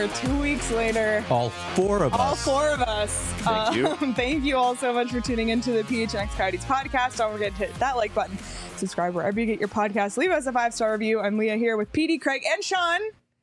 here 2 weeks later. All four of us. Thank you. Thank you all so much for tuning into the PHNX Coyotes podcast. Don't forget to hit that like button. Subscribe wherever you get your podcast. Leave us a 5-star review. I'm Leah here with PD, Craig, and Sean.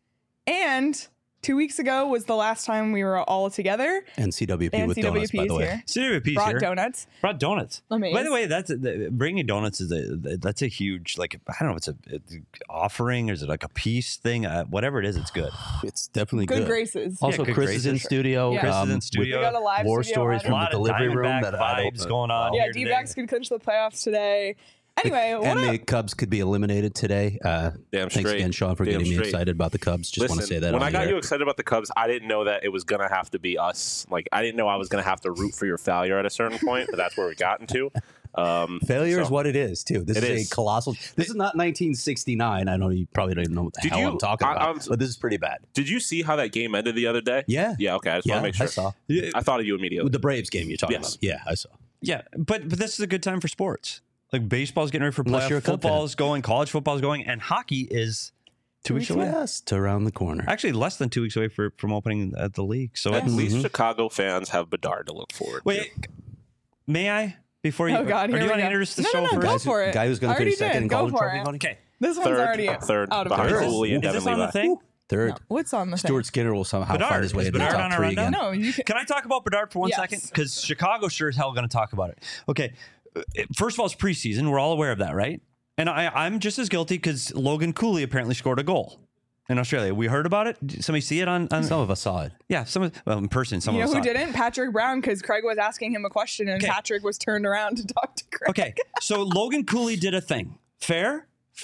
And 2 weeks ago was the last time we were all together. And CWP and with CWP donuts, by the way. CWP's Brought here. donuts. Brought donuts. Amazing. By the way, that's bringing donuts that's a huge, like, I don't know, it's an offering or is it like a peace thing? Whatever it is, it's good. It's definitely Good good. graces. Also, good Chris is in graces. studio. Yeah. Chris is in with studio. We got a live war studio stories on. from A lot the of delivery room Diamondback that I vibes don't going on. Yeah, here today. D-backs could clinch the playoffs today. Anyway, what And up? the Cubs could be eliminated today. Thanks straight. again, Sean, for Damn getting me straight. excited about the Cubs. Just want to say that when on I got the you air. excited about the Cubs, I didn't know that it was going to have to be us. Like, I didn't know I was going to have to root for your failure at a certain point, but that's where we got into. Failure is what it is, too. This It is is. a colossal. This is not 1969. I know you probably don't even know what the Did hell you- I'm talking about, but this is pretty bad. Did you see how that game ended the other day? Yeah. Yeah, okay. I just want to make sure. I saw. I thought of you immediately. With the Braves game you're talking Yes. about. Yeah, I saw. Yeah, but this is a good time for sports. Like baseball's getting ready for Unless you're a playoff, Cub fan. football's going, college football's going, and hockey is 2 weeks away. Just around the corner. Actually, less than 2 weeks away from opening at the league. So At it's, least Chicago fans have Bedard to look forward to. wait, may I before you? Oh, God, or here do you we want to go. introduce the No, show no, first? go for it. Guy who's going I to already finish second did. in Go college for trophy it. voting? Okay, This one's already third out of behind control. Cooley and is this Devin on the Levi. thing? Third. No, what's on the Stuart Skinner will somehow Bedard. find his way Is into the Bedard on top a three rundown? again. No, you can. Can I talk about Bedard for 1 Yes. second? Because Chicago sure as hell going to talk about it. Okay, first of all, it's preseason. We're all aware of that, right? And I'm just as guilty because Logan Cooley apparently scored a goal in Australia. We heard about it. Did somebody see it on Some of us saw it. yeah, in person. Some You of know us who saw it. didn't? Patrick Brown, because Craig was asking him a question and Okay. Patrick was turned around to talk to Craig. Okay, so Logan Cooley did a thing. Fair,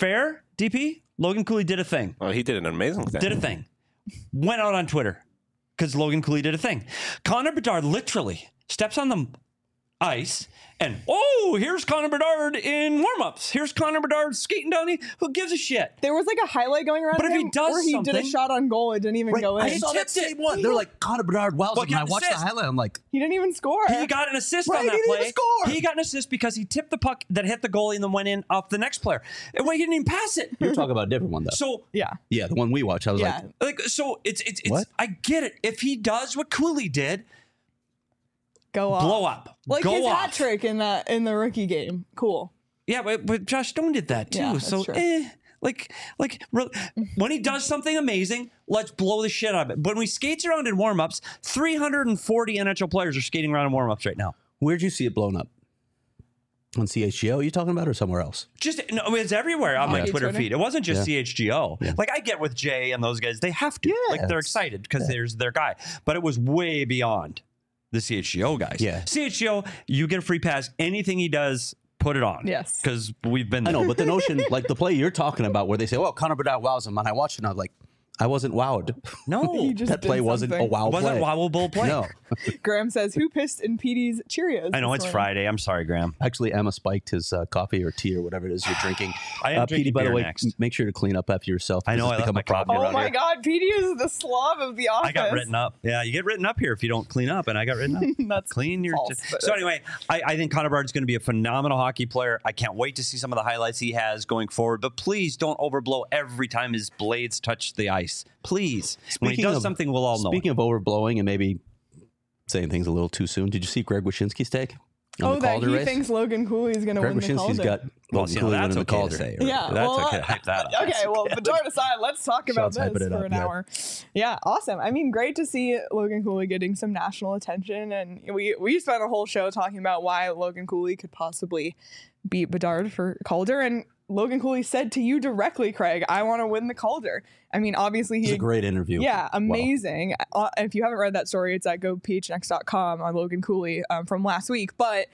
DP. Logan Cooley did a thing. Oh, he did an amazing thing. Did a thing. Went out on Twitter because Logan Cooley did a thing. Connor Bedard literally steps on the ice and, oh, here's Connor Bedard in warm-ups. Here's Connor Bedard skating down the... Who gives a shit? There was like a highlight going around But of if he him does where he did a something- shot on goal. It didn't even go in. I saw that tipped it. same one. They're like, Connor Bedard, wow. Well, And I get watched assist. the highlight. I'm like, He didn't even score. He got an assist Right, on he that didn't play. even score. He got an assist because he tipped the puck that hit the goalie and then went in off the next player. And wait, he didn't even pass it. you're talking about a different one, though. So Yeah. yeah, the one we watched. I was Yeah. like, so it's What? I get it. If he does what Cooley did, Go off. blow up. Like Go his off. hat trick in the rookie game. Cool. Yeah, but Josh Stone did that too. Yeah, that's So true. when he does something amazing, let's blow the shit out of it. But when he skates around in warm-ups, 340 NHL players are skating around in warm-ups right now. where'd you see it blown up? On CHGO, you talking about, or somewhere else? Just no, it's everywhere on my Yeah. Twitter Twitter? feed. It wasn't just CHGO. Like I get with Jay and those guys, they have to. Like they're Yes. excited because there's their guy. But it was way beyond the CHGO guys. Yeah. CHGO, you get a free pass. Anything he does, put it on. Yes. Because we've been I there. know, but the notion, like the play you're talking about, where they say, "Well, Connor Bedard wows him," and I watched it, and I was like, I wasn't wowed. No. He just That play did wasn't a something. wow wasn't play. a wowable play. No, Graham says, who pissed in PD's Cheerios? I know this it's morning? Friday. I'm sorry, Graham. actually, Emma spiked his coffee or tea or whatever it is you're drinking. I am drinking Petey, by the beer way, next. make sure to clean up after yourself. I know, This I has left become my a problem coffee Oh around my here. God, PD is the slob of the office. I got written up. Yeah, you get written up here if you don't clean up, and I got written up. That's Clean your. false, but So anyway, I think Connor Bedard's going to be a phenomenal hockey player. I can't wait to see some of the highlights he has going forward. But please don't overblow every time his blades touch the ice. Please, when he Speaking does of- something, we'll all know. Speaking of overblowing and maybe saying things a little too soon, did you see Greg Wyshynski's take on Oh, the that Calder he race? thinks Logan Cooley is going to Greg win the Wyshynski's Calder. got Well, Logan see, now Cooley that's winning the okay to Calder. say. Yeah, That's well, okay to hype that up. Okay, well, Bedard aside, let's talk about Sean's hyping this it for up, an yeah. hour. Yeah, awesome. I mean, great to see Logan Cooley getting some national attention, and we spent a whole show talking about why Logan Cooley could possibly beat Bedard for Calder, and Logan Cooley said to you directly, Craig, I want to win the Calder. I mean, obviously It's he a great interview. Yeah, Wow. amazing. If you haven't read that story, it's at gophnx.com on Logan Cooley from last week. But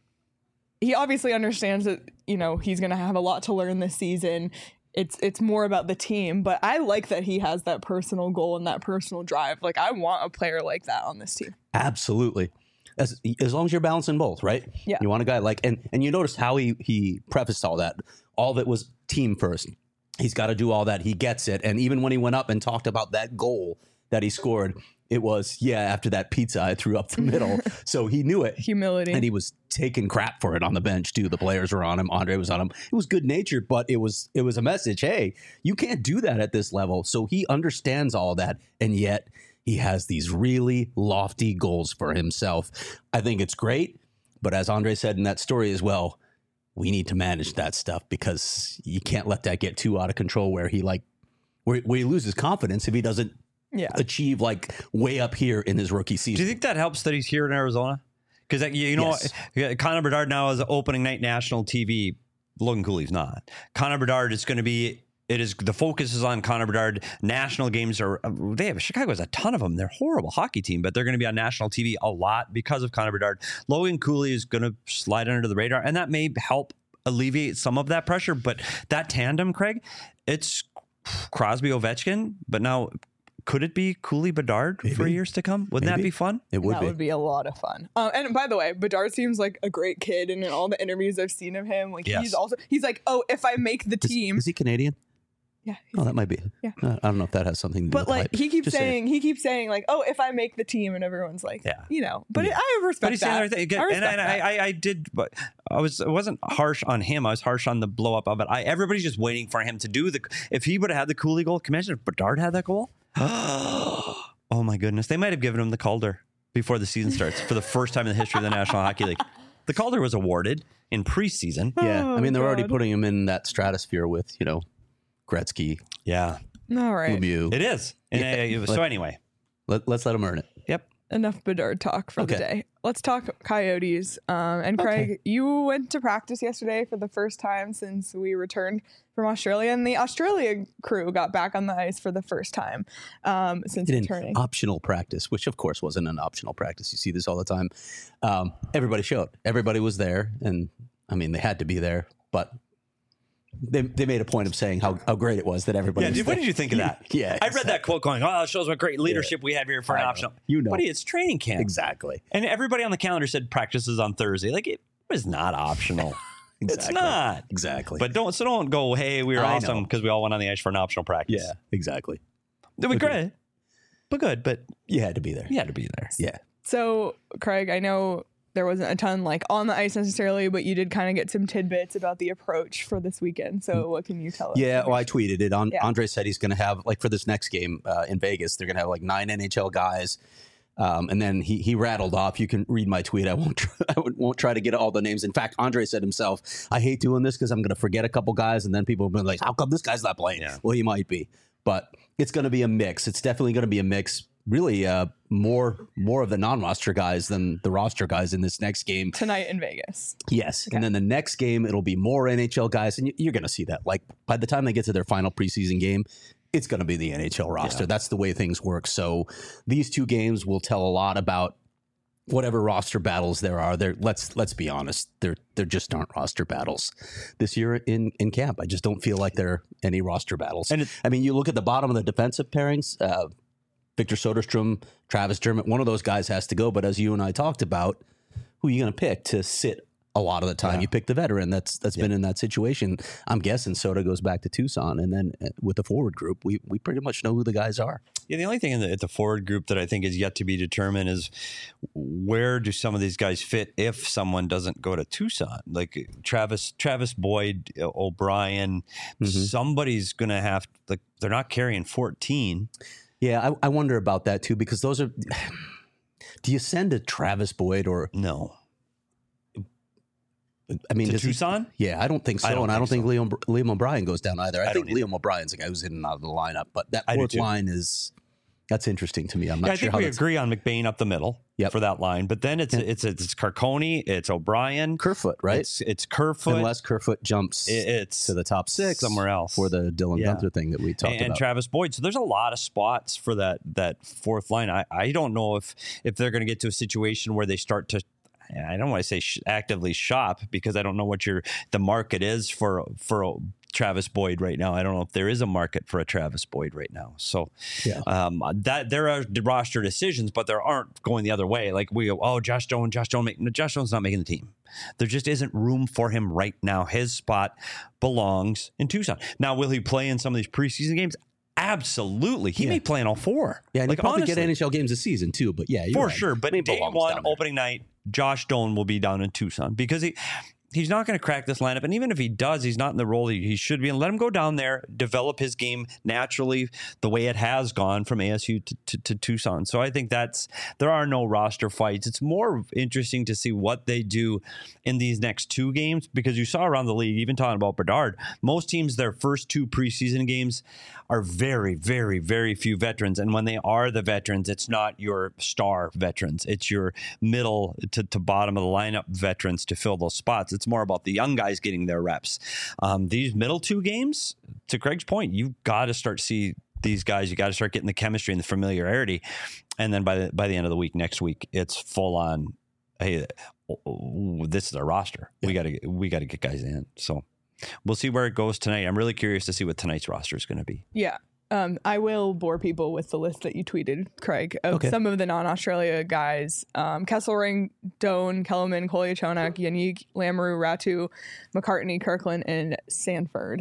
he obviously understands that, he's going to have a lot to learn this season. It's more about the team. But I like that he has that personal goal and that personal drive. Like, I want a player like that on this team. Absolutely. As long as you're balancing both, right? Yeah. You want a guy like, and you noticed how he prefaced all that. All of it was team first. He's got to do all that. He gets it. And even when he went up and talked about that goal that he scored, It was, after that pizza I threw up the middle. So he knew it. Humility. And he was taking crap for it on the bench, too. The players were on him. Andre was on him. It was good natured, but it was a message. Hey, you can't do that at this level. So he understands all that. And yet he has these really lofty goals for himself. I think it's great. But as Andre said in that story as well, we need to manage that stuff because you can't let that get too out of control where he loses confidence if he doesn't achieve like way up here in his rookie season. Do you think that helps that he's here in Arizona? Because Connor Bedard now is opening night national TV. Logan Cooley's not. Connor Bedard is going to be. The focus is on Connor Bedard. National games Chicago has a ton of them. They're a horrible hockey team, but they're going to be on national TV a lot because of Connor Bedard. Logan Cooley is going to slide under the radar, and that may help alleviate some of that pressure. But that tandem, Craig, it's Crosby Ovechkin, but now could it be Cooley Bedard for years to come? Wouldn't that be fun? It would. That would be a lot of fun. And by the way, Bedard seems like a great kid, and in all the interviews I've seen of him, like he's like, oh, if I make the team, is he Canadian? Yeah. Oh, that might be. Yeah. I don't know if that has something to do but with like hype. he keeps saying like, oh, if I make the team, and everyone's like, but I respect that. I did, but I wasn't harsh on him. I was harsh on the blow up of it. Everybody's just waiting for him to do if he would have had the Cooley goal. Can you imagine if Bedard had that goal? Oh my goodness. They might have given him the Calder before the season starts for the first time in the history of the National Hockey League. The Calder was awarded in preseason. Yeah. I mean, they're already putting him in that stratosphere with, Gretzky. Yeah. All right. Lemieux. It is. So anyway. Let's let him earn it. Yep. Enough Bedard talk for the day. Let's talk Coyotes. And Craig, you went to practice yesterday for the first time since we returned from Australia, and the Australia crew got back on the ice for the first time since returning. Optional practice, which of course wasn't an optional practice. You see this all the time. Everybody showed. Everybody was there, and I mean they had to be there, but they made a point of saying how great it was that everybody was there. What did you think of that? Exactly. I read that quote going, it shows what great leadership we have here for an optional. Buddy, it's training camp. Exactly. And everybody on the calendar said practice is on Thursday. Like, it was not optional. Exactly. It's not. Exactly. But don't go, hey, we were awesome because we all went on the ice for an optional practice. Yeah, exactly. It was great. But good, but you had to be there. You had to be there. Yeah. So, Craig, I know there wasn't a ton like on the ice necessarily, but you did kind of get some tidbits about the approach for this weekend. So what can you tell us? Yeah, well, I tweeted it. Andre said he's going to have, like for this next game in Vegas, they're going to have like 9 NHL guys. And then he rattled off. You can read my tweet. I won't try to get all the names. In fact, Andre said himself, I hate doing this because I'm going to forget a couple guys. And then people will be like, how come this guy's not playing? Yeah. Well, he might be. But it's going to be a mix. It's definitely going to be a mix. Really more of the non-roster guys than the roster guys in this next game. Tonight in Vegas. Yes. Okay. And then the next game, it'll be more NHL guys. And you're going to see that. Like by the time they get to their final preseason game, it's going to be the NHL roster. Yeah. That's the way things work. So these two games will tell a lot about whatever roster battles there are. Let's be honest. There just aren't roster battles this year in camp. I just don't feel like there are any roster battles. And I mean, you look at the bottom of the defensive pairings, Victor Soderstrom, Travis Dermott, one of those guys has to go. But as you and I talked about, who are you going to pick to sit a lot of the time? Yeah. You pick the veteran that's been in that situation. I'm guessing Soda goes back to Tucson. And then with the forward group, we pretty much know who the guys are. Yeah, the only thing at the forward group that I think is yet to be determined is where do some of these guys fit if someone doesn't go to Tucson? Like Travis Boyd, O'Brien, somebody's going to have, like, they're not carrying 14. Yeah, I wonder about that too, because those are. Do you send a Travis Boyd or no? I mean, to Tucson? I don't think so, and I don't think Liam O'Brien goes down either. I think Liam O'Brien's a guy who's in and out of the lineup, but that fourth line that's interesting to me. I'm not sure. I think we agree on McBain up the middle for that line, but then it's Carcone, it's O'Brien, Kerfoot, right? It's Kerfoot, unless Kerfoot jumps to the top 6 somewhere else for the Dylan Gunther thing that we talked about, and Travis Boyd. So there's a lot of spots for that fourth line. I don't know if they're going to get to a situation where they start to. I don't want to say actively shop because I don't know what the market is for Travis Boyd right now. I don't know if there is a market for a Travis Boyd right now. So that there are roster decisions, but there aren't going the other way. Like we go, Josh Jones not making the team. There just isn't room for him right now. His spot belongs in Tucson. Now, will he play in some of these preseason games? Absolutely. He Yeah. may play in all four. Yeah, and like, he'll probably honestly, get NHL games this season too. But yeah, you're for right. sure. But He day belongs one, down there. opening night, Josh Doan will be down in Tucson because he's not going to crack this lineup. And even if he does, he's not in the role he should be. And let him go down there, develop his game naturally the way it has gone from ASU to Tucson. So I think there are no roster fights. It's more interesting to see what they do in these next two games, because you saw around the league, even talking about Bedard, most teams, their first two preseason games are very, very, very few veterans. And when they are the veterans, it's not your star veterans. It's your middle to bottom of the lineup veterans to fill those spots. It's more about the young guys getting their reps. These middle two games, to Craig's point, you've got to start see these guys. You got to start getting the chemistry and the familiarity. And then by the end of the week, next week, it's full on. Hey, this is our roster. Yeah. We got to get guys in. So we'll see where it goes tonight. I'm really curious to see what tonight's roster is going to be. Yeah. I will bore people with the list that you tweeted, Craig, of some of the non-Australia guys. Kesselring, Doan, Kellerman, Kolyachonok, Yannick, Lamoureux, Ratu, McCartney, Kirkland, and Sanford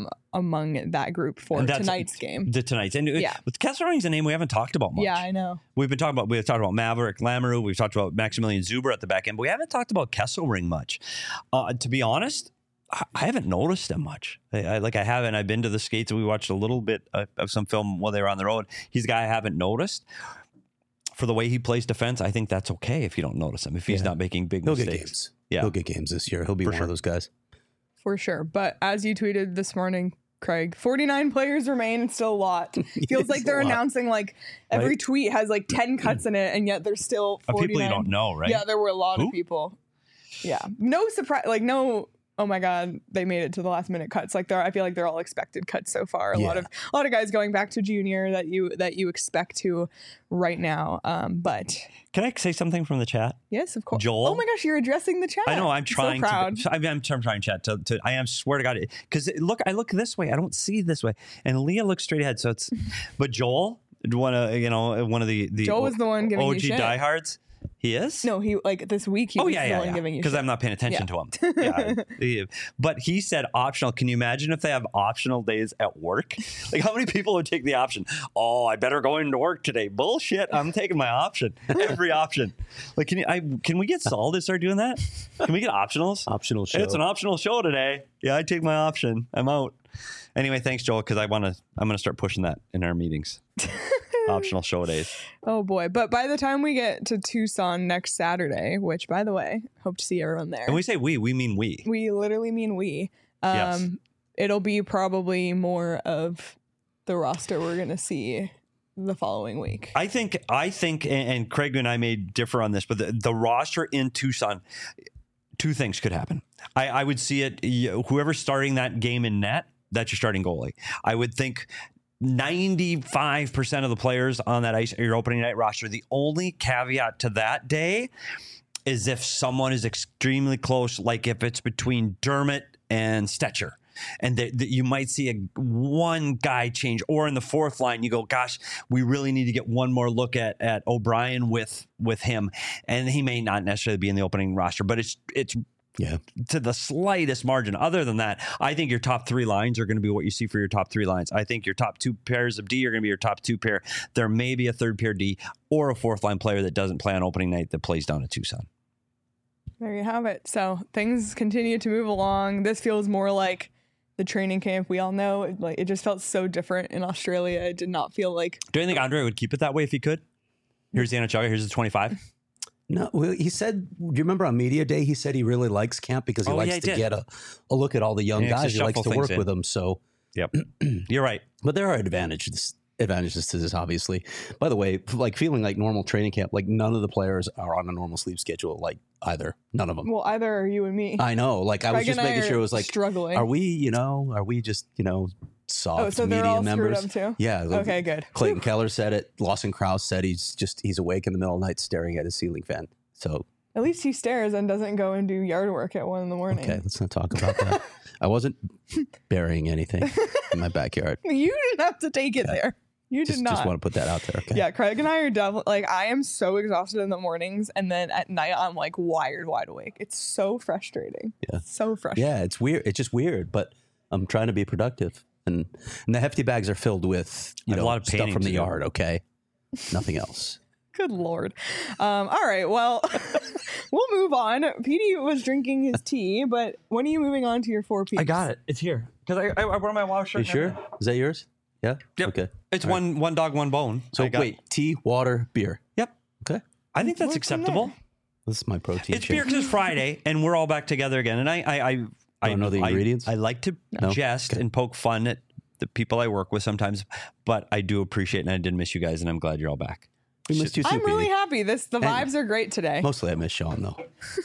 among that group for tonight's game. Tonight's. And with Kesselring's a name we haven't talked about much. Yeah, I know. We've talked about Maverick, Lamoureux. We've talked about Maximilian Zuber at the back end, but we haven't talked about Kesselring much. To be honest, I haven't noticed him much. I've been to the skates and we watched a little bit of some film while they were on the road. He's a guy I haven't noticed. For the way he plays defense, I think that's okay if you don't notice him, if he's not making big mistakes. He'll get games. Yeah. He'll get games this year. He'll be one of those guys. For sure. But as you tweeted this morning, Craig, 49 players remain. It's still a lot. Feels like they're announcing like every tweet has like 10 cuts in it, and yet there's still 49. People you don't know, right? Yeah, there were a lot of people. Yeah. No surprise. Like no... Oh my God, they made it to the last minute cuts. Like I feel like they're all expected cuts so far. A lot of guys going back to junior that you expect to right now. But can I say something from the chat? Yes, of course. Joel. Oh my gosh, you're addressing the chat. I know. I'm trying. So proud. I'm trying chat to. I am. Swear to God, because I look this way. I don't see this way, and Leah looks straight ahead. So it's. But Joel, one of the Joel was the one giving OG you shit. diehards. He is? No, he this week he was the one giving you shit. Because I'm not paying attention to him. Yeah. But he said optional. Can you imagine if they have optional days at work? Like how many people would take the option? Oh, I better go into work today. Bullshit. I'm taking my option. Every option. Like can we get Saul to start doing that? Can we get optionals? Optional show. It's an optional show today. Yeah, I take my option. I'm out. Anyway, thanks, Joel, because I'm gonna start pushing that in our meetings. Optional show days. Oh boy. But by the time we get to Tucson next Saturday, which by the way, hope to see everyone there. And we say we mean we. We literally mean we. Yes. It'll be probably more of the roster we're going to see the following week. I think, and Craig and I may differ on this, but the roster in Tucson, two things could happen. I would see it, whoever's starting that game in net, that's your starting goalie. I would think 95% of the players on that ice are your opening night roster. The only caveat to that day is if someone is extremely close, like if it's between Dermott and Stetcher. And you might see one guy change, or in the fourth line, you go, gosh, we really need to get one more look at O'Brien with him. And he may not necessarily be in the opening roster, but it's to the slightest margin. Other than that, I think your top three lines are going to be what you see for your top three lines. I think your top two pairs of D are going to be your top two pair. There may be a third pair D or a fourth line player that doesn't play on opening night that plays down at Tucson. There you have it. So things continue to move along. This feels more like the training camp we all know. It just felt so different in Australia. It did not feel like. Do you think Andre would keep it that way if he could? Here's the NHL. Here's the 25. No, well, he said, do you remember on media day, he said he really likes camp because he likes to get a look at all the young guys. He likes to work with them. So, yep, you're right. But there are advantages to this, obviously. By the way, like feeling like normal training camp, like none of the players are on a normal sleep schedule, like either. None of them. Well, either are you and me. I know. Like I was just making sure it was like, struggling. Are we just, soft so media they're all members? Screwed up too? Yeah. Okay, good. Clayton Keller said it. Lawson Krause said he's awake in the middle of the night staring at his ceiling fan. So at least he stares and doesn't go and do yard work at 1 a.m. Okay, let's not talk about that. I wasn't burying anything in my backyard. You didn't have to take it there. You did not. Just want to put that out there. Okay. Yeah, Craig and I are definitely like, I am so exhausted in the mornings, and then at night I'm like wide awake. It's so frustrating. Yeah. So frustrating. Yeah, it's weird. It's just weird, but I'm trying to be productive. And the hefty bags are filled with, I have a lot of stuff painting from the to do. yard, okay? Nothing else. Good Lord. All right. Well, we'll move on. Petey was drinking his tea, but when are you moving on to your 4 Peaks? I got it. It's here because I wore my WoW shirt. You sure? Is that yours? Yeah? Yep. Okay. It's one dog, one bone. So I got- wait, tea, water, beer. Yep. Okay. I think that's Work from acceptable. This is my protein It's shake. beer because it's Friday and we're all back together again. And I Don't know the ingredients? I like to No? jest and poke fun at the people I work with sometimes, but I do appreciate and I did miss you guys and I'm glad you're all back. We missed you too, I'm really Petey. happy. The vibes are great today. Mostly I miss Sean, though.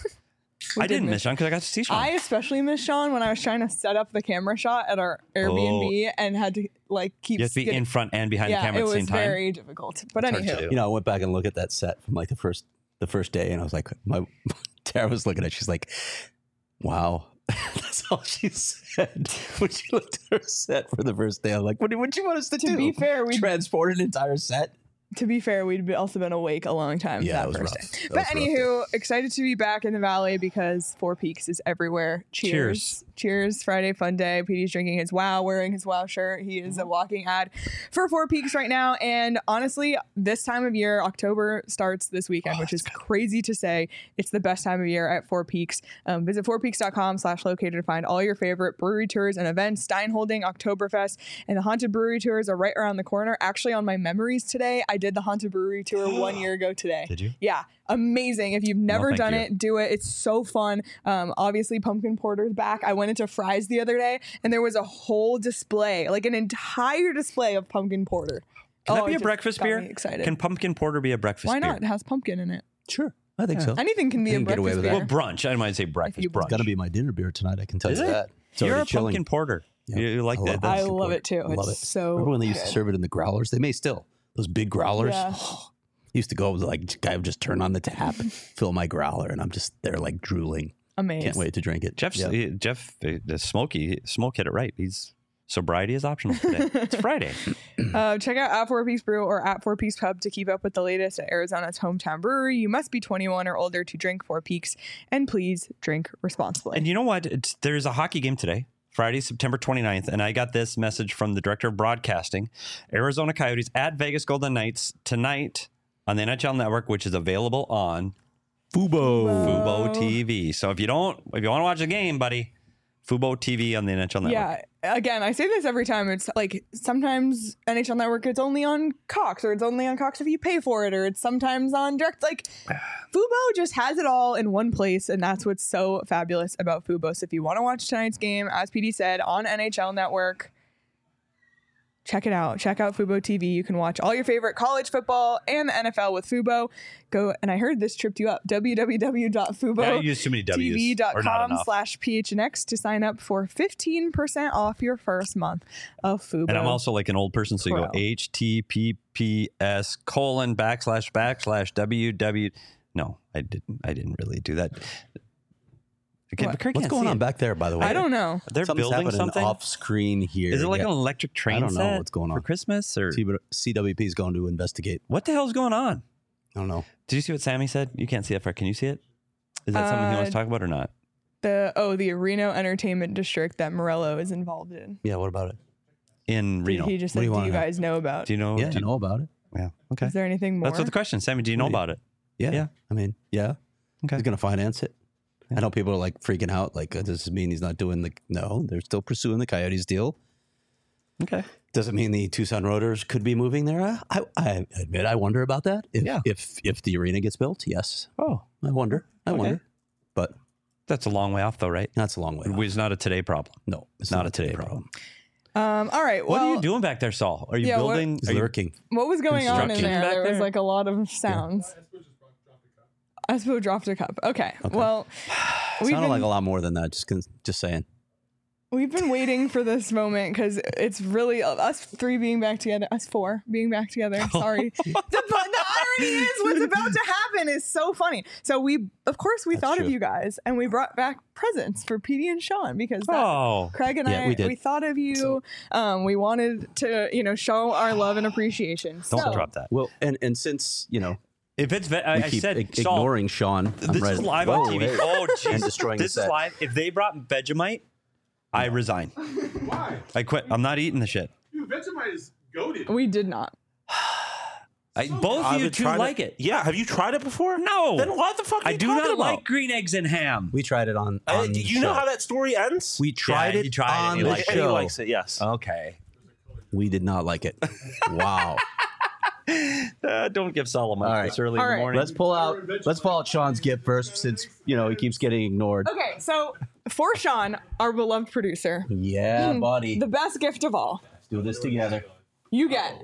I didn't miss Sean because I got to see Sean. I especially miss Sean when I was trying to set up the camera shot at our Airbnb and had to keep you have to be skitting- in front and behind the Yeah, camera it at the was same time. very difficult. But hard to anywho, do. I went back and looked at that set from like the first day, and I was like, Tara was looking at it. She's like, wow. That's all she said when she looked at her set for the first day. I'm like, what do you want us to do? to be fair, Transport an entire set? we'd also been awake a long time Yeah, that it was first rough. day. That But was rough. anywho, excited to be back in the valley because 4 Peaks is everywhere. Cheers. Cheers. Friday fun day. Petey's drinking his WoW, wearing his WoW shirt. He is a walking ad for 4 Peaks right now. And honestly, this time of year, October starts this weekend, which is crazy to say. It's the best time of year at 4 Peaks. Visit 4peaks.com/located to find all your favorite brewery tours and events. Steinholding, Oktoberfest, and the Haunted Brewery tours are right around the corner. Actually, on my memories today, I did the Haunted Brewery tour 1 year ago today. Did you? Yeah, amazing. If you've never thank done you. it, do it. It's so fun. Obviously, Pumpkin Porter's back. I went into Fry's the other day, and there was a whole display, like an entire display of Pumpkin Porter. Can that it be a just breakfast got beer? me excited. Can pumpkin porter be a breakfast Why beer? not? It has pumpkin in it. Sure. I think so. Anything can be You a can get away breakfast with beer. that. Well, brunch. I might say breakfast you- brunch. It's got to be my dinner beer tonight. I can tell Is you it? that. It's You're a already chilling. pumpkin porter. Yeah. You like I that? love I pumpkin love porter. it too. I love It's it. so Remember when they used to good. serve it in the growlers? They may still. Those big growlers. Yeah. Used to go like guy would just turn on the tap, fill my growler, and I'm just there like drooling. Amazing. Can't wait to drink it. Jeff, Yeah. the Smoke hit it right. He's sobriety is optional today. It's Friday. Check out at 4 Peaks Brew or at 4 Peaks Pub to keep up with the latest at Arizona's hometown brewery. You must be 21 or older to drink 4 Peaks, and please drink responsibly. And you know what? There's a hockey game today, Friday, September 29th, and I got this message from the director of broadcasting. Arizona Coyotes at Vegas Golden Knights tonight on the NHL Network, which is available on Fubo TV. So if you want to watch the game, buddy, Fubo TV on the NHL Network. Yeah, again, I say this every time. It's like sometimes NHL Network, it's only on Cox, or it's only on Cox if you pay for it, or it's sometimes on direct. Like Fubo just has it all in one place, and that's what's so fabulous about Fubo. So if you want to watch tonight's game, as PD said, on NHL Network, check it out. Check out Fubo TV. You can watch all your favorite college football and the NFL with Fubo. Go, and I heard this tripped you up. www.fubo. Yeah, you use too many W's, or not enough. TV.com/PHNX to sign up for 15% off your first month of Fubo. And I'm also like an old person, so you go Pro. https://www. No, I didn't really do that. Okay, What? but Kirk What's can't going see on it. back there, by the way? I don't know. They're Something's building happening something. off screen here. Is it like Yeah. an electric train I don't know set what's going for on. Christmas, or CWP is going to investigate. what the hell's going on? I don't know. Did you see what Sammy said? You can't see it, Fred. Can you see it? Is that something he wants to talk about or not? The Reno Entertainment District that Morello is involved in. Yeah, what about it? In Reno. He just What said, do you do wanna you know? guys know about? Do you know? Yeah, I know about it. Yeah. Okay. Is there anything more? That's what the question. Sammy, do you know about it? Yeah. Yeah. I mean, yeah. Okay. He's going to finance it. I know people are like freaking out. Like, does this mean he's not doing no, they're still pursuing the Coyotes deal. Okay. Does it mean the Tucson Roaders could be moving there? I admit I wonder about that. If the arena gets built, yes. Oh, I wonder. But that's a long way off, though, right? that's a long way off. It's not a today problem. No, it's Not a today problem. all right. What Well, are you doing back there, Saul? Are you Yeah, what- building? He's are you- lurking. what was going on in Construction there? back There was there? like a lot of sounds. Espo dropped a cup. Okay. Well, Sounded like a lot more than that. Just saying. we've been waiting for this moment because it's really us three being back together, us four being back together. Sorry. the irony is what's about to happen is so funny. So of course we thought of true. you guys and we brought back presents for Petey and Sean because Oh. Craig and Yeah, I, we did. we thought of you. We wanted to, show our love and appreciation. Don't So, drop that. Well, and since If it's, we I keep said, ignoring Sean, I'm This ready. is live Whoa, on TV. hey. Oh, And jeez. destroying This the is set. live. If they brought Vegemite, I resign. Why? I quit. I'm not eating the shit. Dude, Vegemite is goated. We did not. Both of you two like it. Yeah, have you tried it before? No. Then what the fuck are I you do talking not about? like green eggs and ham. We tried it on the you know show. how that story ends? We tried Yeah, it he tried it on and he the liked it. And he show. likes it, yes. Okay. We did not like it. Wow. Don't give Solomon All right. this early All in the right. morning. Let's pull out Sean's gift first, since he keeps getting ignored. Okay, so for Sean, our beloved producer, Yeah, buddy. the best gift of all, Let's do this together. you're getting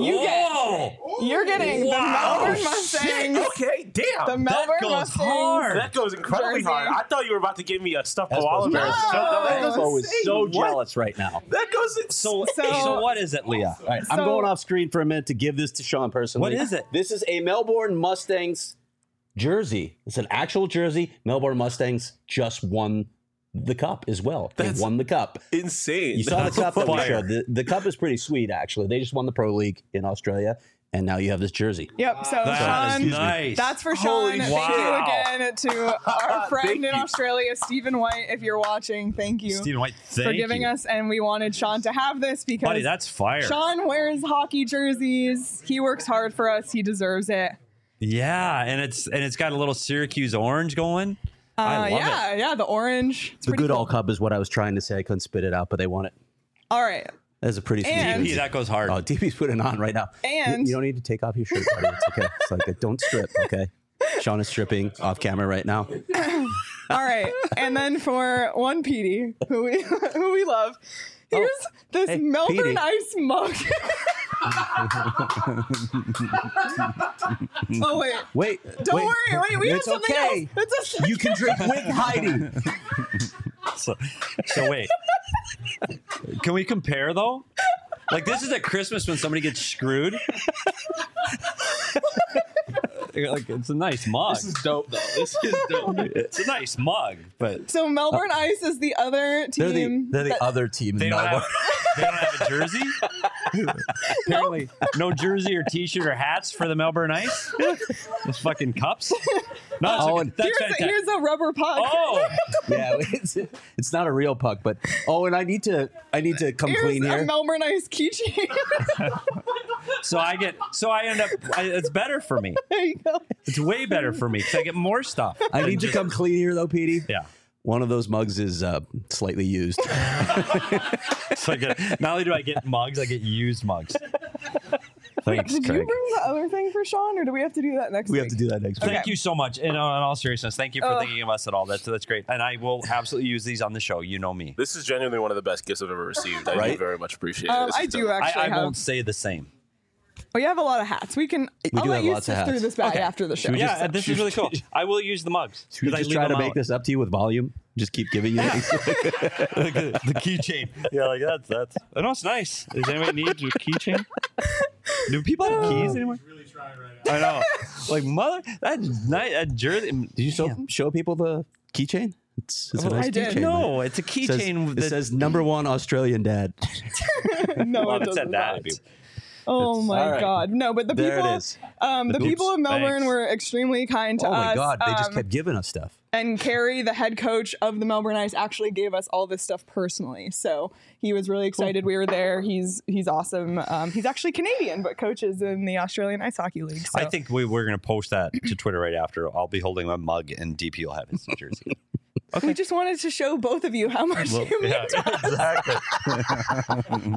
the Wow. Melbourne Mustangs. Okay, damn. The Melbourne goes Mustangs. hard. That goes incredibly Jersey. hard. I thought you were about to give me a stuffed That's koala bear. supposed to No. That is so What? jealous right now. That goes in So what is it, Leah? All right, I'm So- going off screen for a minute to give this to Sean personally. What is it? This is a Melbourne Mustangs jersey. It's an actual jersey. Melbourne Mustangs just won the cup as well. They That's won the cup. insane. You saw the cup that we fire. showed. The cup is pretty sweet, actually. They just won the Pro League in Australia, and now you have this jersey. Yep, so That is Sean, nice. that's for Holy Sean. shit. Thank you Wow. again to our friend Thank in you. Australia, Stephen White. If you're watching, thank you Stephen White, thank for giving you. us. And we wanted Sean to have this because Buddy, that's fire. Sean wears hockey jerseys. He works hard for us. He deserves it. Yeah, and it's got a little Syracuse orange going. I love it. Yeah, the orange. It's The pretty good cool. all cup is what I was trying to say. I couldn't spit it out, but they won it. All right. That's a pretty sweet And- jersey. DP, that goes hard. Oh, DP's putting it on right now. And- you don't need to take off your shirt, buddy. It's okay. It's like, don't strip, okay? Sean is stripping off camera right now. All right. And then for one Petey, who we love, here's this hey, Melbourne Petey. Ice mug. Oh, wait. Wait. Don't worry. Wait, we have It's something okay. else. It's a You can drink with Heidi. So wait, can we compare though? Like this is at Christmas when somebody gets screwed. Like it's a nice mug. This is dope, though. This is dope. It's a nice mug, but So Melbourne Ice is the other team. They're the other team. they in don't Melbourne. have a jersey. Apparently, no jersey or T-shirt or hats for the Melbourne Ice. Those fucking cups. No, Oh, that's fantastic. Here's a rubber puck. Oh, Yeah, it's not a real puck, but and I need to come Here's clean a here. Melbourne Ice keychain. so I end up. It's better for me. There you go. It's way better for me because I get more stuff. I need to come clean here, though, Petey. Yeah. One of those mugs is slightly used. So I get, not only do I get mugs, I get used mugs. Thanks, Did you Craig. bring the other thing for Sean, or do we have to do that next We week? have to do that next week. Okay. Thank you so much. And in all seriousness, thank you for thinking of us at all. That's great. And I will absolutely use these on the show. You know me. This is genuinely one of the best gifts I've ever received. I do Right? very much appreciate it. This I is do dope. actually I have. won't say the same. Oh, you have a lot of hats. I'll do let have you lots of sift through hats. this bag Okay. after the show. we Yeah, just- this is really cool. I will use the mugs. Should we 'cause I just leave try to them make out. this up to you with volume? Just keep giving you things. the keychain. Yeah, like that's. I know it's nice. Does anybody need a keychain? Do people have keys anymore? Really trying right now. I know. Like mother, that's nice. That jersey. Did you show people the keychain? It's a nice I did. keychain. No, right? it's a It says, keychain. it says #1 Australian dad. No, Well, it it doesn't. said that. Oh my all right. God! No, but the There people, it is. the people of Melbourne Thanks. were extremely kind to Oh my us. God, they just kept giving us stuff. And Carrie, the head coach of the Melbourne Ice, actually gave us all this stuff personally. So he was really excited we were there. He's awesome. He's actually Canadian, but coaches in the Australian Ice Hockey League. So. I think we're going to post that to Twitter right after. I'll be holding my mug, and DP will have his jersey. we just wanted to show both of you how much you mean Yeah, to us. exactly.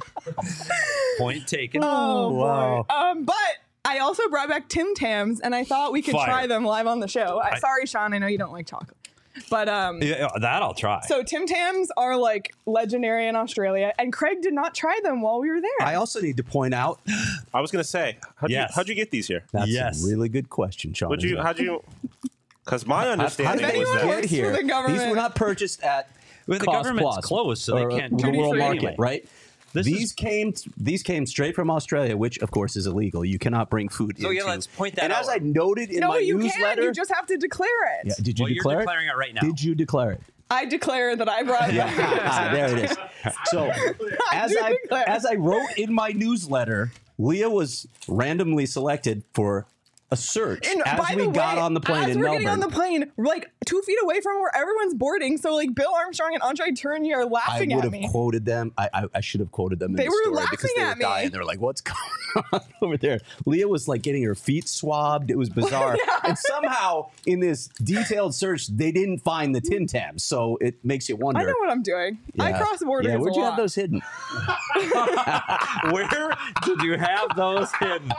Point taken. Oh Wow. boy. But I also brought back Tim Tams, and I thought we could Fire. try them live on the show. Sorry, Sean, I know you don't like chocolate, but Yeah, that I'll try. So Tim Tams are like legendary in Australia, and Craig did not try them while we were there. I also need to point out I was gonna say, Yes. how'd you get these here? that's Yes. a really good question, Sean. How'd you? Because my How understanding did they was anyone that works get here? for the government- These were not purchased at Well, the Cost government's Plus closed, so they or can't the duty world free market, anyway. right? This these came straight from Australia, which of course is illegal. You cannot bring food So, into. yeah, let's point that and out. as I noted in no, my you newsletter, can't. You just have to declare it. yeah, did you Well, you're declare declaring it right now. Did you declare it? I declare that I brought them. There it is. So as do I declare. as I wrote in my newsletter, Leah was randomly selected for a search And as by we the got way, on the plane as in we're Melbourne. getting on the plane, like 2 feet away from where everyone's boarding. So like Bill Armstrong and Andre Tourigny are I laughing would at me. have quoted them. I should have quoted them. They in the were story laughing because they at were me. dying. They were like, "What's going on over there?" Leah was like getting her feet swabbed. It was bizarre. And somehow in this detailed search, they didn't find the Tim Tams. So it makes you wonder. I know what I'm doing. I cross borders. Yeah, where'd a you lot. have those hidden? Where did you have those hidden?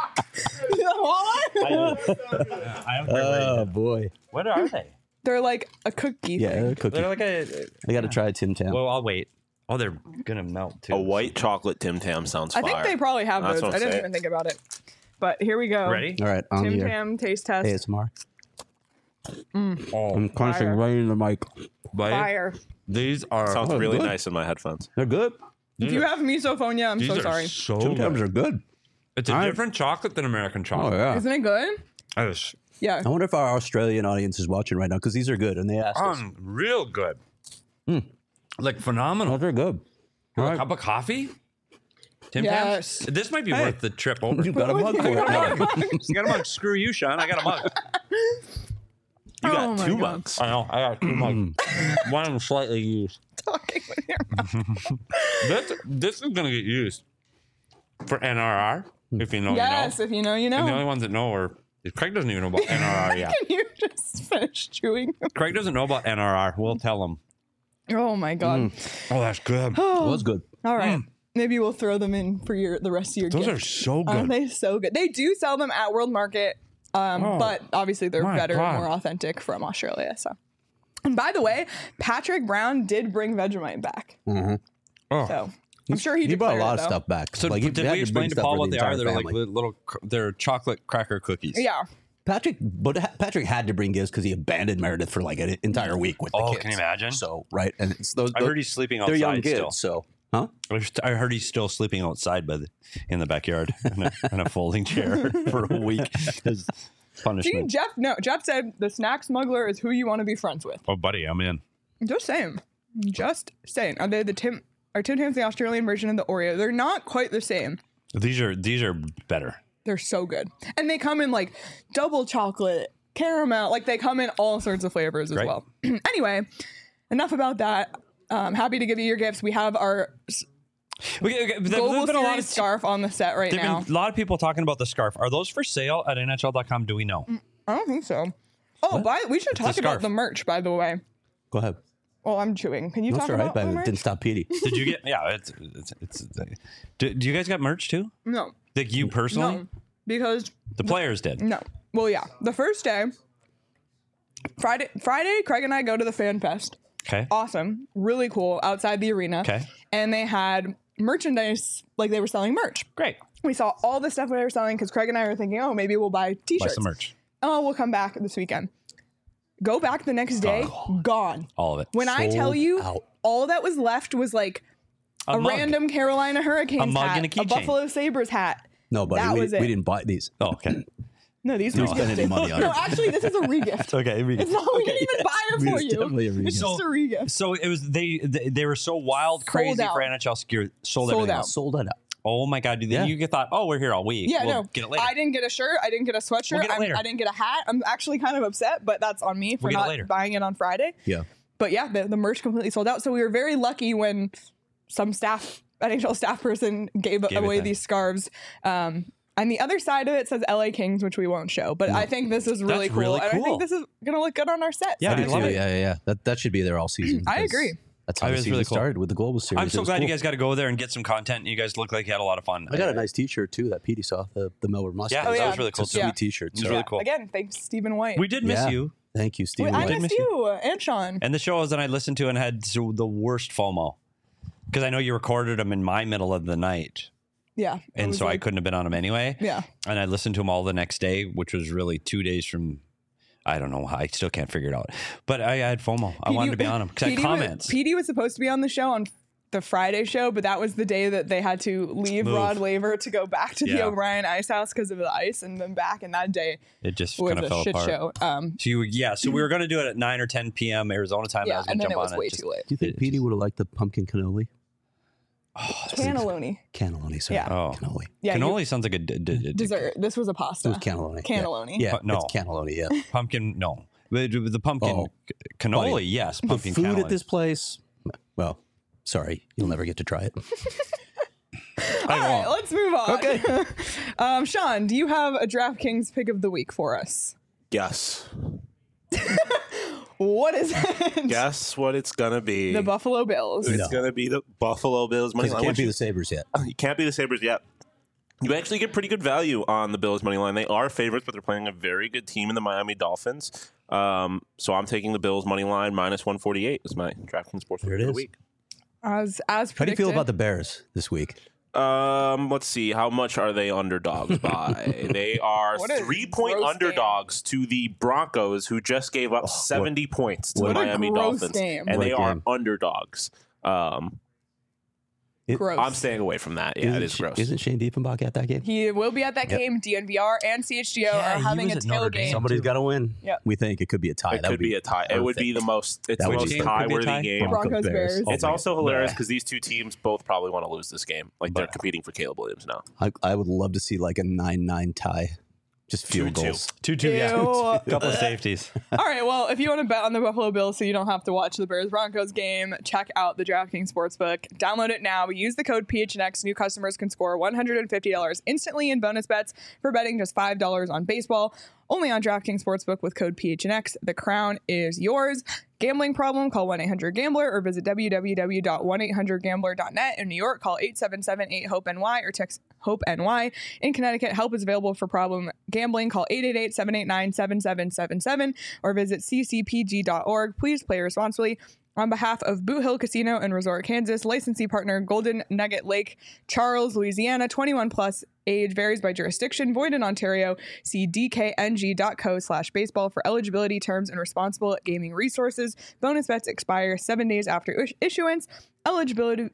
I have Oh boy. What are they? They're like a cookie. Yeah, thing. they're cookie. They're like a. I got to try a Tim Tam. Well, I'll wait. Oh, they're gonna melt too. A white chocolate Tim Tam sounds I fire. think they probably have That's those. what I I'm didn't saying. even think about it. But here we go. Ready? All right, on Tim here. Tam taste test. ASMR. Oh, I'm constantly Fire. right in the mic. Fire. These are. Sounds Oh, really good. nice in my headphones. They're good. If you have misophonia, I'm These so are sorry. so Tim Tams good. are good. It's a different chocolate than American Oh chocolate. yeah. Isn't it good? It's Yeah. I wonder if our Australian audience is watching right now because these are good and they asked us. real good. Like phenomenal. Oh, they're good. For All a right. cup of coffee? Tim Yes. Tams? This might be worth the trip over. You got a mug for it now. You got a mug. Screw you, Sean. I got a mug. You got Oh my 2 God. mugs. I know. I got 2 mugs. One of them slightly used. Talking with your mouth. This is going to get used for NRR. If you know, Yes, you know. if you know, you And the know. only ones that know are Craig doesn't even know about NRR yet. Can you just finish chewing? Craig doesn't know about NRR. We'll tell him. Oh my God. Oh, that's good. It was good. All right. Maybe we'll throw them in for the rest of your Those gift. are so Aren't good. they so good? They do sell them at World Market, but obviously they're my better God. and more authentic from Australia. So, and by the way, Patrick Brown did bring Vegemite back. Oh. So I'm sure he He brought a declared lot it, of though. stuff back. So Like, he did had we to explain bring to stuff Paul for what the they are? entire They're like family. little, they're chocolate cracker cookies. Yeah. Patrick had to bring gifts because he abandoned Meredith for like an entire week with the Oh, kids. can you imagine? So right, and it's those. I heard he's sleeping they're young outside kids. still. So huh? I heard he's still sleeping outside in the backyard in a folding chair for a week as See, punishment. Jeff said the snack smuggler is who you want to be friends with. Oh, buddy, I'm in. Just saying. Just saying. Are they Tim Tams the Australian version of the Oreo? They're not quite the same. These are better. They're so good. And they come in like double chocolate, caramel. Like they come in all sorts of flavors as Right. well. Anyway, enough about that. Happy to give you your gifts. We have our Global There's been a lot Series of scarf on the set right There've now. been a lot of people talking about the scarf. Are those for sale at NHL.com? Do we know? I don't think so. Oh, we should talk about scarf. the merch, by the way. Go ahead. Oh, I'm chewing. Can you That's talk all right, about but the it merch? didn't stop Petey. Did you get? Yeah, do you guys got merch too? No. Like you personally? No. Because The players did. no. Well, yeah. The first day, Friday, Craig and I go to the Fan Fest. Okay. Awesome. Really cool outside the arena. Okay. And they had merchandise, like they were selling merch. Great. We saw all the stuff they were selling because Craig and I were thinking, oh, maybe we'll buy Buy t-shirts. some merch. Oh, we'll come back this weekend. Go back the next day, gone. All of it. When I Sold tell you, out. all that was left was like a mug. random Carolina Hurricanes mug hat, and a keychain. Buffalo Sabres hat. No, buddy, That we was it. didn't buy these. Oh, okay. No, these were spend any gifted. money on No, it. actually, this is a regift. Okay. It's not, we didn't even buy it for It's you. definitely a It's just a regift. So it was they were so wild, crazy out. for NHL gear. Sold Sold everything out. else. Sold it out. Oh my god! Then Yeah. you thought, oh, we're here all week. Yeah, We'll no. get it later. I didn't get a shirt. I didn't get a sweatshirt. We'll get it later. I didn't get a hat. I'm actually kind of upset, but that's on me for We'll get it not later. buying it on Friday. Yeah. But yeah, the merch completely sold out. So we were very lucky when some NHL staff person gave it away then. these scarves. And the other side of it says LA Kings, which we won't show. But I think this is really That's cool. really And I cool. think this is going to look good on our set. Yeah, So I love it. Yeah. That should be there all season. I because agree. That's how I the was season really cool. started with the Global Series. I'm It so was glad cool. you guys got to go there and get some content. You guys look like you had a lot of fun. I got a nice T-shirt too that Petey saw, the Melbourne Mustang. Yeah, that was really cool It's a too. sweet T-shirt. It's so- really cool. Again, thanks, Stephen White. We did miss Yeah. you. Thank you, Stephen. I White. missed you and Sean. And the shows that I listened to and had the worst FOMO because I know you recorded them in my middle of the night. Yeah. it And was so I like- couldn't have been on them anyway. Yeah. And I listened to them all the next day, which was really 2 days from, I don't know. I still can't figure it out. But I had FOMO. I wanted to be on them because I had comments. Petey was supposed to be on the show on the Friday show, but that was the day that they had to leave Move. Rod Laver to go back to the Yeah. O'Brien Ice House because of the ice, and then back. And that day It just was kind of a fell shit apart. show. So we were going to do it at 9 or 10 p.m. Arizona time. I Yeah, was going and to then jump it was on way it. too late. Do you think Petey would have liked the pumpkin cannoli? Cannelloni. Cannelloni, sorry. Yeah. Oh. Cannoli. Yeah, Cannoli sounds like a dessert. This was a pasta. It was cannelloni. Cannelloni. Yeah, No. it's cannelloni, yeah. pumpkin. No, With the pumpkin cannoli, buddy, yes. The Pumpkin food cannoli. at this place, well, sorry, you'll never get to try it. All right, let's move on. Okay. Sean, do you have a DraftKings pick of the week for us? Yes. What is it? Guess what it's gonna be. The Buffalo Bills. It's No. gonna be the Buffalo Bills money Because it line. can't which be the is- Sabres yet. You can't be the Sabres yet. You actually get pretty good value on the Bills money line. They are favorites, but they're playing a very good team in the Miami Dolphins. So I'm taking the Bills money line minus 148 is my DraftKings sports There pick it of the is. week. As How do you predicted. feel about the Bears this week? Let's see. How much are they underdogs by? They are What a 3-point gross underdogs to the Broncos, who just gave up 70 points to what the a Miami gross Dolphins, game. and they Great are game. underdogs. Gross. I'm staying away from that. Yeah, it is gross. Isn't Shane Diefenbach at that game? He will be at that game. DNVR and CHGO are he having was a at Notre Dame. tailgate. Somebody's got to win. Yep. We think it could be a tie. It That could would be a tie. It would be the most. It's That the would most be- tie-worthy tie? game. Broncos Bears. It's Oh my also God. hilarious because these two teams both probably want to lose this game. Like they're competing for Caleb Williams now. I would love to see like a 9-9 tie. Just field 2-2. goals. 2-2, yeah. Ew. Couple of safeties. All right, well, if you want to bet on the Buffalo Bills so you don't have to watch the Bears-Broncos game, check out the DraftKings Sportsbook. Download it now. Use the code PHNX. New customers can score $150 instantly in bonus bets for betting just $5 on baseball. Only on DraftKings Sportsbook with code PHNX. The crown is yours. Gambling problem? Call 1-800-GAMBLER or visit www.1800gambler.net. In New York, call 877-8-HOPE-NY or text HOPE-NY. In Connecticut, help is available for problem gambling. Call 888-789-7777 or visit ccpg.org. Please play responsibly. On behalf of Boot Hill Casino and Resort, Kansas, licensee partner Golden Nugget Lake, Charles, Louisiana, 21 plus, age varies by jurisdiction, void in Ontario. See dkng.co/baseball for eligibility terms and responsible gaming resources. Bonus bets expire 7 days after issuance. Eligibility.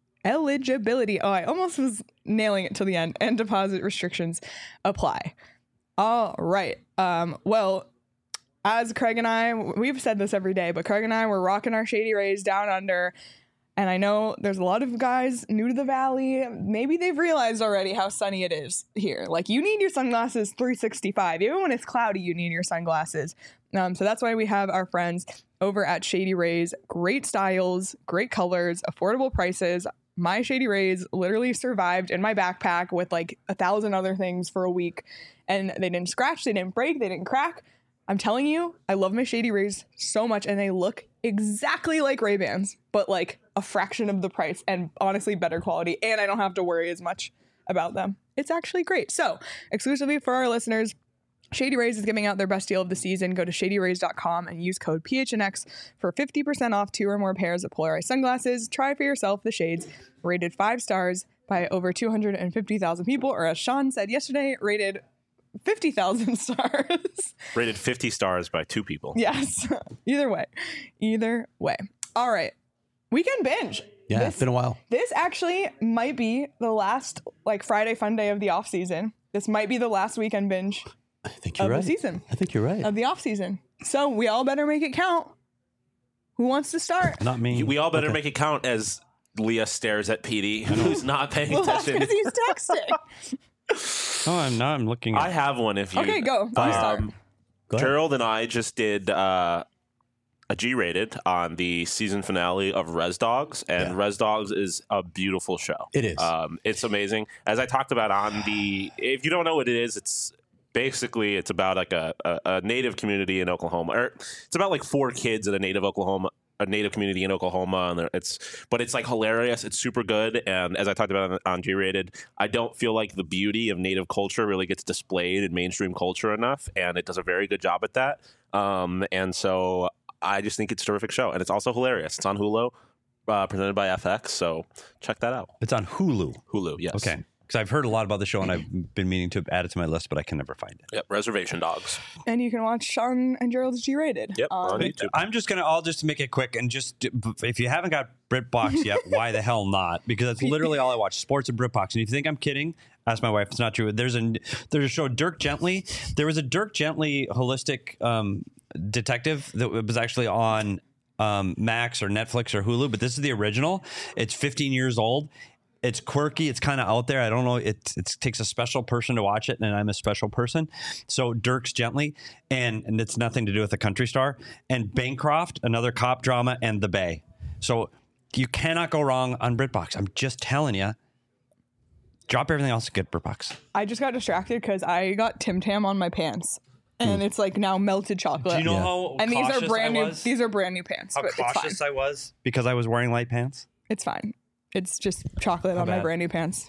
Oh, I almost was nailing it till the end. And deposit restrictions apply. All right. Well, as Craig and I, we've said this every day, but Craig and I were rocking our Shady Rays down under. And I know there's a lot of guys new to the Valley. Maybe they've realized already how sunny it is here. Like, you need your sunglasses 365. Even when it's cloudy, you need your sunglasses. So that's why we have our friends over at Shady Rays. Great styles, great colors, affordable prices. My Shady Rays literally survived in my backpack with like 1,000 other things for a week. And they didn't scratch, they didn't break, they didn't crack. I'm telling you, I love my Shady Rays so much, and they look exactly like Ray-Bans, but like a fraction of the price and honestly better quality, and I don't have to worry as much about them. It's actually great. So, exclusively for our listeners, Shady Rays is giving out their best deal of the season. Go to shadyrays.com and use code PHNX for 50% off 2 or more pairs of polarized sunglasses. Try for yourself the shades rated 5 stars by over 250,000 people, or as Sean said yesterday, rated 50,000 stars. Rated 50 stars by 2 people. Yes. Either way. All right. Weekend binge. Yeah, This- it's been a while. This actually might be the last like Friday fun day of the off season. This might be the last weekend binge I think you're of right. the season, I think you're right. of the off season. So we all better make it count. Who wants to start? Not me. We all better make it count as Leah stares at Petey, who's not paying Well, that's attention. because he's texting. Oh, I'm not. I'm looking I at have one if you. Okay, go. You start. Go ahead. Gerald and I just did a G-rated on the season finale of Res Dogs, and Yeah. Res Dogs is a beautiful show. It is. It's amazing. As I talked about on the, if you don't know what it is, it's basically it's about like a native community in Oklahoma, or it's about like 4 kids in a native community in Oklahoma, and it's like hilarious. It's super good, and as I talked about on G-rated, I don't feel like the beauty of native culture really gets displayed in mainstream culture enough, and it does a very good job at that. And so I just think it's a terrific show, and it's also hilarious. It's on Hulu, presented by FX, so check that out. It's on Hulu. Hulu, yes. Okay. Because I've heard a lot about the show and I've been meaning to add it to my list, but I can never find it. Yep, Reservation Dogs. And you can watch Sean and Gerald's G-rated. Yep, on YouTube. I'll just make it quick and just, if you haven't got BritBox yet, why the hell not? Because that's literally all I watch, sports and BritBox. And if you think I'm kidding, ask my wife. It's not true. There's a show, Dirk Gently. There was a Dirk Gently holistic detective that was actually on Max or Netflix or Hulu, but this is the original. It's 15 years old. It's quirky. It's kind of out there. I don't know. It takes a special person to watch it, and I'm a special person. So Dirks Gently, and it's nothing to do with the Country Star, and Bancroft, another cop drama, and The Bay. So you cannot go wrong on BritBox. I'm just telling you. Drop everything else and get BritBox. I just got distracted because I got Tim Tam on my pants, and it's like now melted chocolate. Do you know how and these cautious are brand I new. was? These are brand new pants. How But it's fine. cautious I was because I was wearing light pants? It's fine. It's just chocolate on my bad. brand new pants.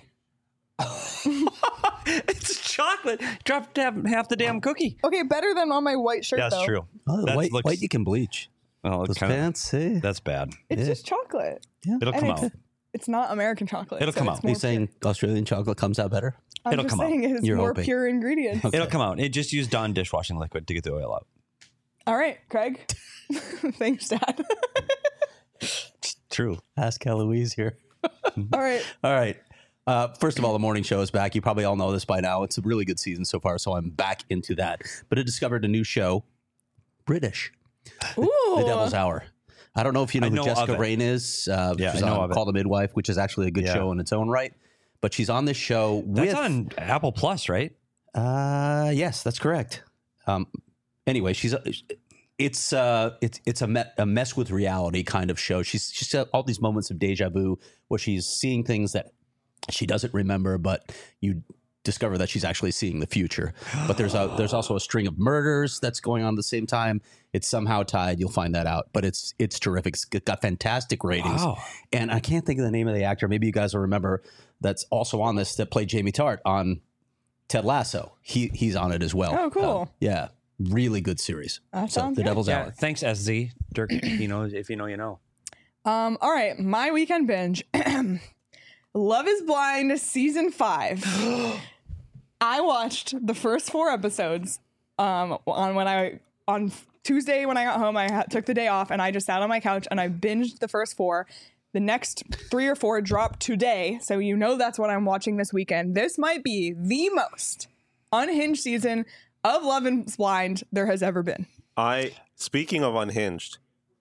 It's chocolate. Dropped half the damn cookie. Okay, better than on my white shirt. Yeah, that's though. true. Oh, That white, looks- white you can bleach. Well, Those pants, hey. that's bad. It's just chocolate. It'll And come it's, out. it's not American chocolate. It'll so come it's out. more Are you saying Australian chocolate comes out better? I'm it'll just come out. saying it's You're more hoping. pure ingredients. It'll come out. It just used Dawn dishwashing liquid to get the oil out. All right, Craig. Thanks, Dad. True. Ask Eloise here. All right. All right. First of all, the morning show is back. You probably all know this by now. It's a really good season so far, so I'm back into that. But I discovered a new show, British, Ooh. The Devil's Hour. I don't know if you know I who know Jessica of it. Rain is. She's I know on of it. Call the Midwife, which is actually a good Yeah. show in its own right. But she's on this show That's with... on Apple Plus, right? Yes, that's correct. Anyway, it's a mess with reality kind of show. She's got all these moments of deja vu where she's seeing things that she doesn't remember, but you discover that she's actually seeing the future. But there's also a string of murders that's going on at the same time. It's somehow tied. You'll find that out. But it's terrific. It's got fantastic ratings. Wow. And I can't think of the name of the actor. Maybe you guys will remember that's also on this that played Jamie Tart on Ted Lasso. He's on it as well. Oh, cool. Yeah. Really good series. That So sounds The good. Devil's Yeah. Hour. Thanks, SZ. Dirk, you know, if you know, you know. All right, my weekend binge. Love is Blind season 5. I watched the first 4 episodes on Tuesday when I got home. I took the day off and I just sat on my couch and I binged the first 4. The next 3 or 4 dropped today, so you know that's what I'm watching this weekend. This might be the most unhinged season of Love is Blind there has ever been. Speaking of unhinged,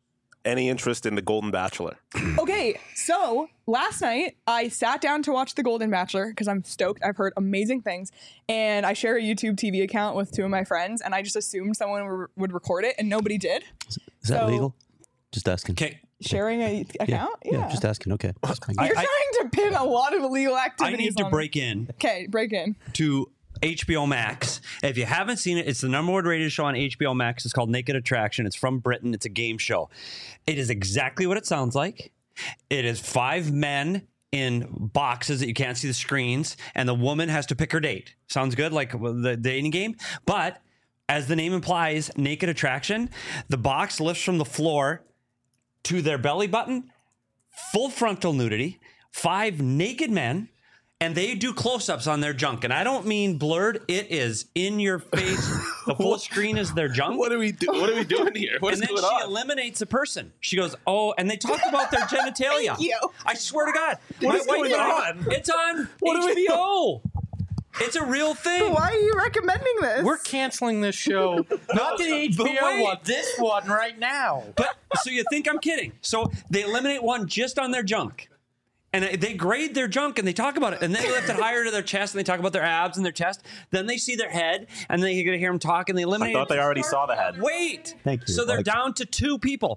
any interest in The Golden Bachelor? Okay, so last night I sat down to watch The Golden Bachelor because I'm stoked. I've heard amazing things. And I share a YouTube TV account with 2 of my friends, and I just assumed someone would record it, and nobody did. Is that So- legal? Just asking. Okay. Sharing a account? Yeah. Just asking. Okay. You're trying to pin a lot of illegal I activities need to on break in Okay, break in. to HBO Max. If you haven't seen it, it's the #1 rated show on HBO Max. It's called Naked Attraction. It's from Britain. It's a game show. It is exactly what it sounds like. It is 5 men in boxes that you can't see the screens, and the woman has to pick her date. Sounds good, like the dating game. But as the name implies, Naked Attraction, the box lifts from the floor to their belly button, full frontal nudity, 5 naked men, and they do close-ups on their junk. And I don't mean blurred. It is in your face. The full screen is their junk. What are we doing here? What's And then going she on? eliminates a person. She goes, oh, and they talk about their genitalia. Thank you. I swear to God. What is going on? It's on What are we HBO. It's a real thing. Why are you recommending this? We're canceling this show. Not the HBO wait. one. This one right now. But so you think I'm kidding. So they eliminate one just on their junk. And they grade their junk and they talk about it. And then they lift it higher to their chest and they talk about their abs and their chest. Then they see their head and then you're going to hear them talk and they I eliminate thought they already saw the head. Wait. Thank you. So they're Like- down to 2 people.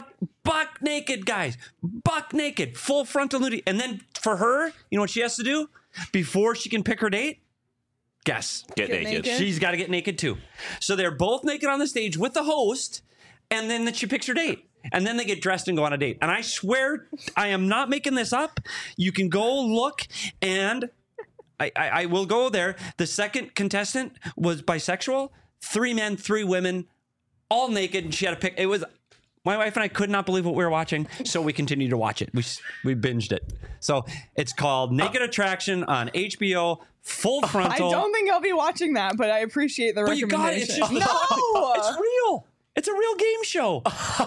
Buck naked, guys. Buck naked. Full frontal nudity. And then for her, you know what she has to do? Before she can pick her date? Guess. Get naked. naked. She's got to get naked too. So they're both naked on the stage with the host, and then she picks her date. And then they get dressed and go on a date. And I swear, I am not making this up. You can go look, and I will go there. The second contestant was bisexual. 3 men, 3 women, all naked, and she had to pick. It was. My wife and I could not believe what we were watching, so we continued to watch it. We binged it. So it's called Naked Attraction on HBO, full I frontal. don't think I'll be watching that, but I appreciate the But you got it. recommendation. It's just no! It's real. It's a real game show.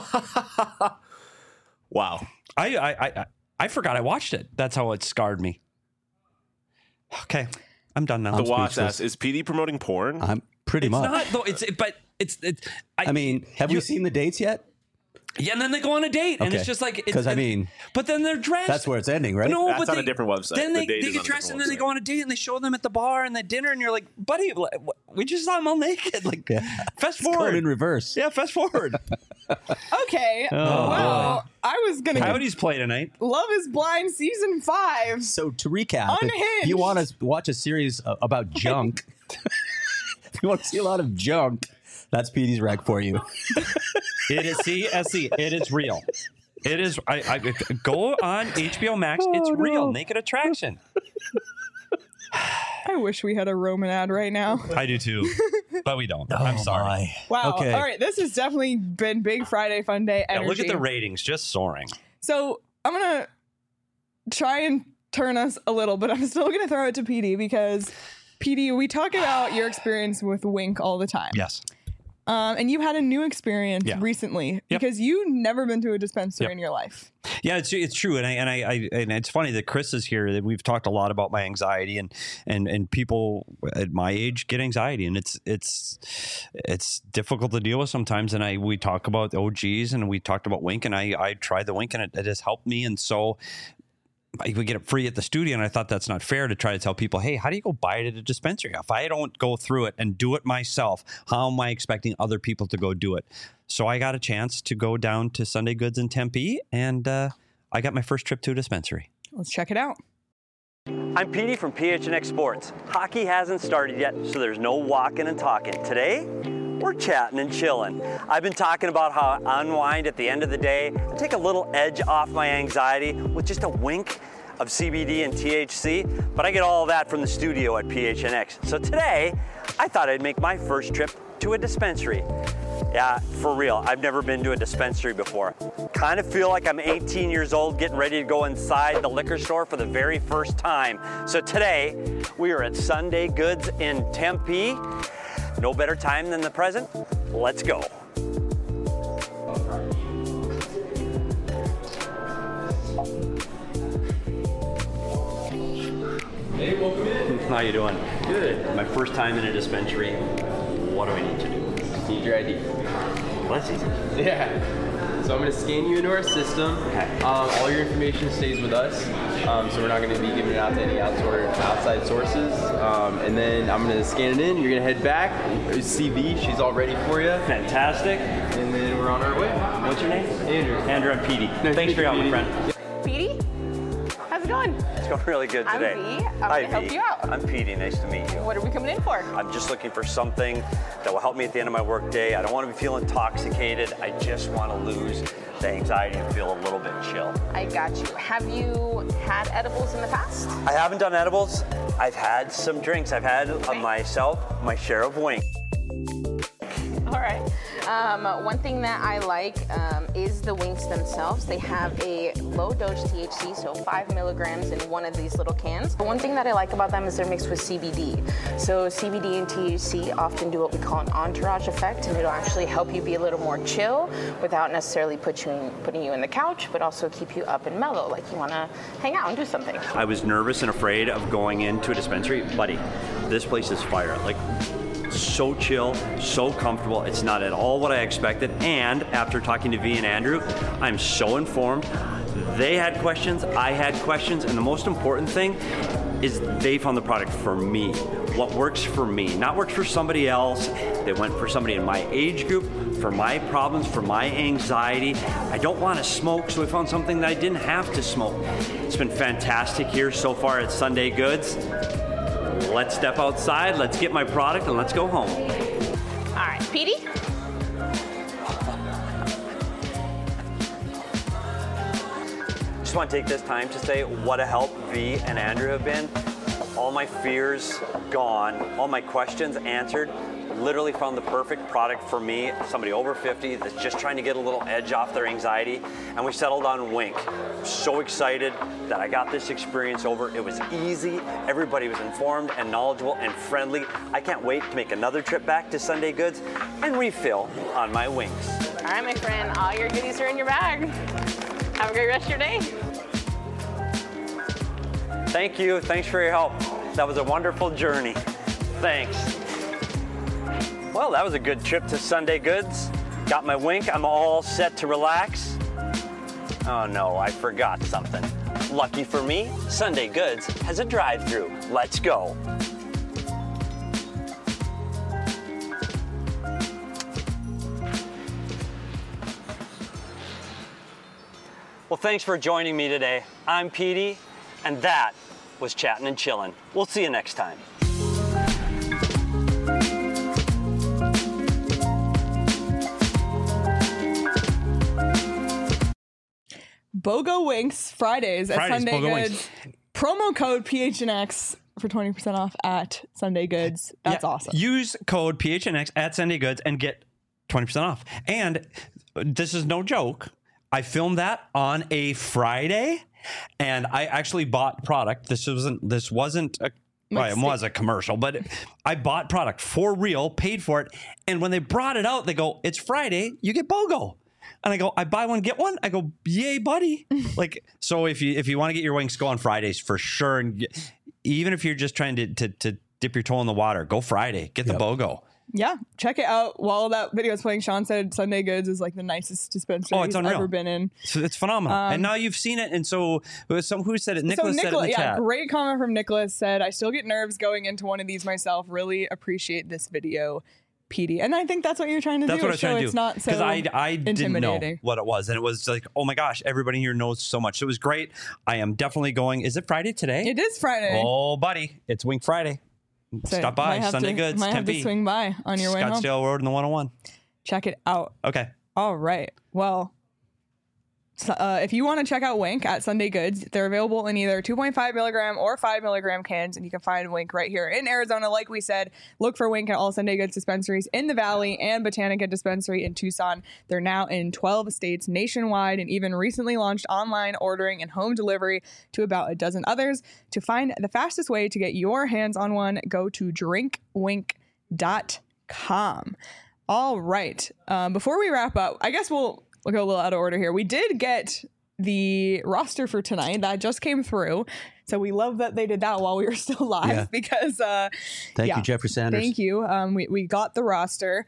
Wow. I forgot I watched it. That's how it scarred me. Okay, I'm done now. The watch speechless. asks, is PD promoting porn? I'm pretty It's much. not though. It's. I mean, have we seen the dates yet? Yeah, and then they go on a date, and Okay. it's just like 'Cause, I mean, but then they're dressed. That's where it's ending, right? No, That's but on a they- different website. Then The they date is get on a dressed, and different then they go website. on a date, and they show them at the bar and the dinner, and you're like, buddy, we just saw them all naked. Like, fast It's going forward. in reverse. Yeah, fast forward. Okay. Oh, well, I was gonna Coyotes play tonight. Love is Blind season 5. So to recap, if Unhinged. you want to watch a series about junk, if you want to see a lot of junk, that's Petey's rec for you. It is CSC. It is real. It is. I go on HBO Max. It's real. Naked Attraction. I wish we had a Roman ad right now. I do too, but we don't. I'm sorry. Wow. Okay. All right. This has definitely been Big Friday Fun Day Yeah, energy. look at the ratings, just soaring. So I'm going to try and turn us a little, but I'm still going to throw it to PD because, PD, we talk about your experience with Wink all the time. Yes. And you had a new experience Yeah. recently Yep. because you never been to a dispensary Yep. in your life. Yeah, it's true, and and it's funny that Chris is here. That we've talked a lot about my anxiety, and people at my age get anxiety, and it's difficult to deal with sometimes. And we talk about OGs, and we talked about Wink, and I tried the Wink, and it has helped me, and so. I would get it free at the studio, and I thought that's not fair to try to tell people, hey, how do you go buy it at a dispensary? If I don't go through it and do it myself, how am I expecting other people to go do it? So I got a chance to go down to Sunday Goods in Tempe, and I got my first trip to a dispensary. Let's check it out. I'm Petey from PHNX Sports. Hockey hasn't started yet, so there's no walking and talking. Today, we're chatting and chilling. I've been talking about how I unwind at the end of the day and take a little edge off my anxiety with just a wink of CBD and THC, but I get all of that from the studio at PHNX. So today, I thought I'd make my first trip to a dispensary. Yeah, for real, I've never been to a dispensary before. Kind of feel like I'm 18 years old getting ready to go inside the liquor store for the very first time. So today, we are at Sunday Goods in Tempe. No better time than the present. Let's go. Hey, welcome in. How you doing? Good. My first time in a dispensary. What do I need to do? Just need your ID. Well, that's easy. Yeah. So I'm going to scan you into our system. Okay. All your information stays with us. So we're not going to be giving it out to any outside sources. And then I'm going to scan it in. You're going to head back. CV, she's all ready for you. Fantastic. And then we're on our way. What's your name? Andrew. Andrew, I'm Petey. Nice Thanks to for your help, meet my you, friend. Petey? How's it going? It's going really good I'm today. V. I'm Hi, gonna help V. you out. I'm Petey. Nice to meet you. What are we coming in for? I'm just looking for something that will help me at the end of my work day. I don't want to be feeling intoxicated. I just want to lose the anxiety and feel a little bit chill. I got you. Have you had edibles in the past? I haven't done edibles. I've had some drinks. I've had myself my share of Wink. All right. One thing that I like is the Winks themselves. They have a low dose THC, so 5 milligrams in one of these little cans. But one thing that I like about them is they're mixed with CBD. So CBD and THC often do what we call an entourage effect, and it'll actually help you be a little more chill without necessarily putting you in the couch, but also keep you up and mellow, like you want to hang out and do something. I was nervous and afraid of going into a dispensary. Buddy, this place is fire. Like, so chill, so comfortable. It's not at all what I expected. And after talking to V and Andrew, I'm so informed. They had questions, I had questions, and the most important thing is they found the product for me. What works for me, not works for somebody else. They went for somebody in my age group, for my problems, for my anxiety. I don't want to smoke, so we found something that I didn't have to smoke. It's been fantastic here so far at Sunday Goods. Let's step outside, let's get my product, and let's go home. All right, Petey? Just want to take this time to say what a help V and Andrew have been. All my fears gone, all my questions answered. Literally found the perfect product for me, somebody over 50 that's just trying to get a little edge off their anxiety, and we settled on Wink. So excited that I got this experience over. It was easy, everybody was informed and knowledgeable and friendly. I can't wait to make another trip back to Sunday Goods and refill on my Winks. All right, my friend, all your goodies are in your bag. Have a great rest of your day. Thank you, thanks for your help. That was a wonderful journey. Thanks. Well, that was a good trip to Sunday Goods. Got my wink. I'm all set to relax. Oh no, I forgot something. Lucky for me, Sunday Goods has a drive-thru. Let's go. Well, thanks for joining me today. I'm Petey, and that was Chatting and Chillin'. We'll see you next time. BOGO Winks Fridays at Sunday BOGO Goods. Winks. Promo code PHNX for 20% off at Sunday Goods. That's awesome. Use code PHNX at Sunday Goods and get 20% off. And this is no joke. I filmed that on a Friday, and I actually bought product. This wasn't a well, it was a commercial, but I bought product for real, paid for it, and when they brought it out, they go, "It's Friday, you get BOGO." And I go, "I buy one, get one." I go, "Yay, buddy!" Like, so if you want to get your wings, go on Fridays for sure. And even if you're just trying to dip your toe in the water, go Friday, get the BOGO. Yeah, check it out. While that video is playing, Sean said Sunday Goods is like the nicest dispensary he's ever been in. It's phenomenal. And now you've seen it. And so who said it? Nicholas said it in the chat. Great comment from Nicholas. Said, "I still get nerves going into one of these myself. Really appreciate this video, PD." And I think that's what you're trying to do. That's what I was trying to do. It's not so because I didn't know intimidating. what it was. And it was like, oh my gosh, everybody here knows so much. So it was great. I am definitely going. Is it Friday today? It is Friday. Oh, buddy. It's Wink Friday. So stop by Sunday Goods, might have to Tempe, swing by on your way home. Scottsdale Road and the 101. Check it out. Okay. All right. Well, so, if you want to check out Wink at Sunday Goods, they're available in either 2.5 milligram or 5 milligram cans, and you can find Wink right here in Arizona. Like we said, look for Wink at all Sunday Goods dispensaries in the Valley and Botanica Dispensary in Tucson. They're now in 12 states nationwide and even recently launched online ordering and home delivery to about a dozen others. To find the fastest way to get your hands on one, go to drinkwink.com. All right. Before we wrap up, I guess we'll go a little out of order here. We did get the roster for tonight that just came through. So we love that they did that while we were still live because thank you, Jeffrey Sanders. Thank you. We got the roster.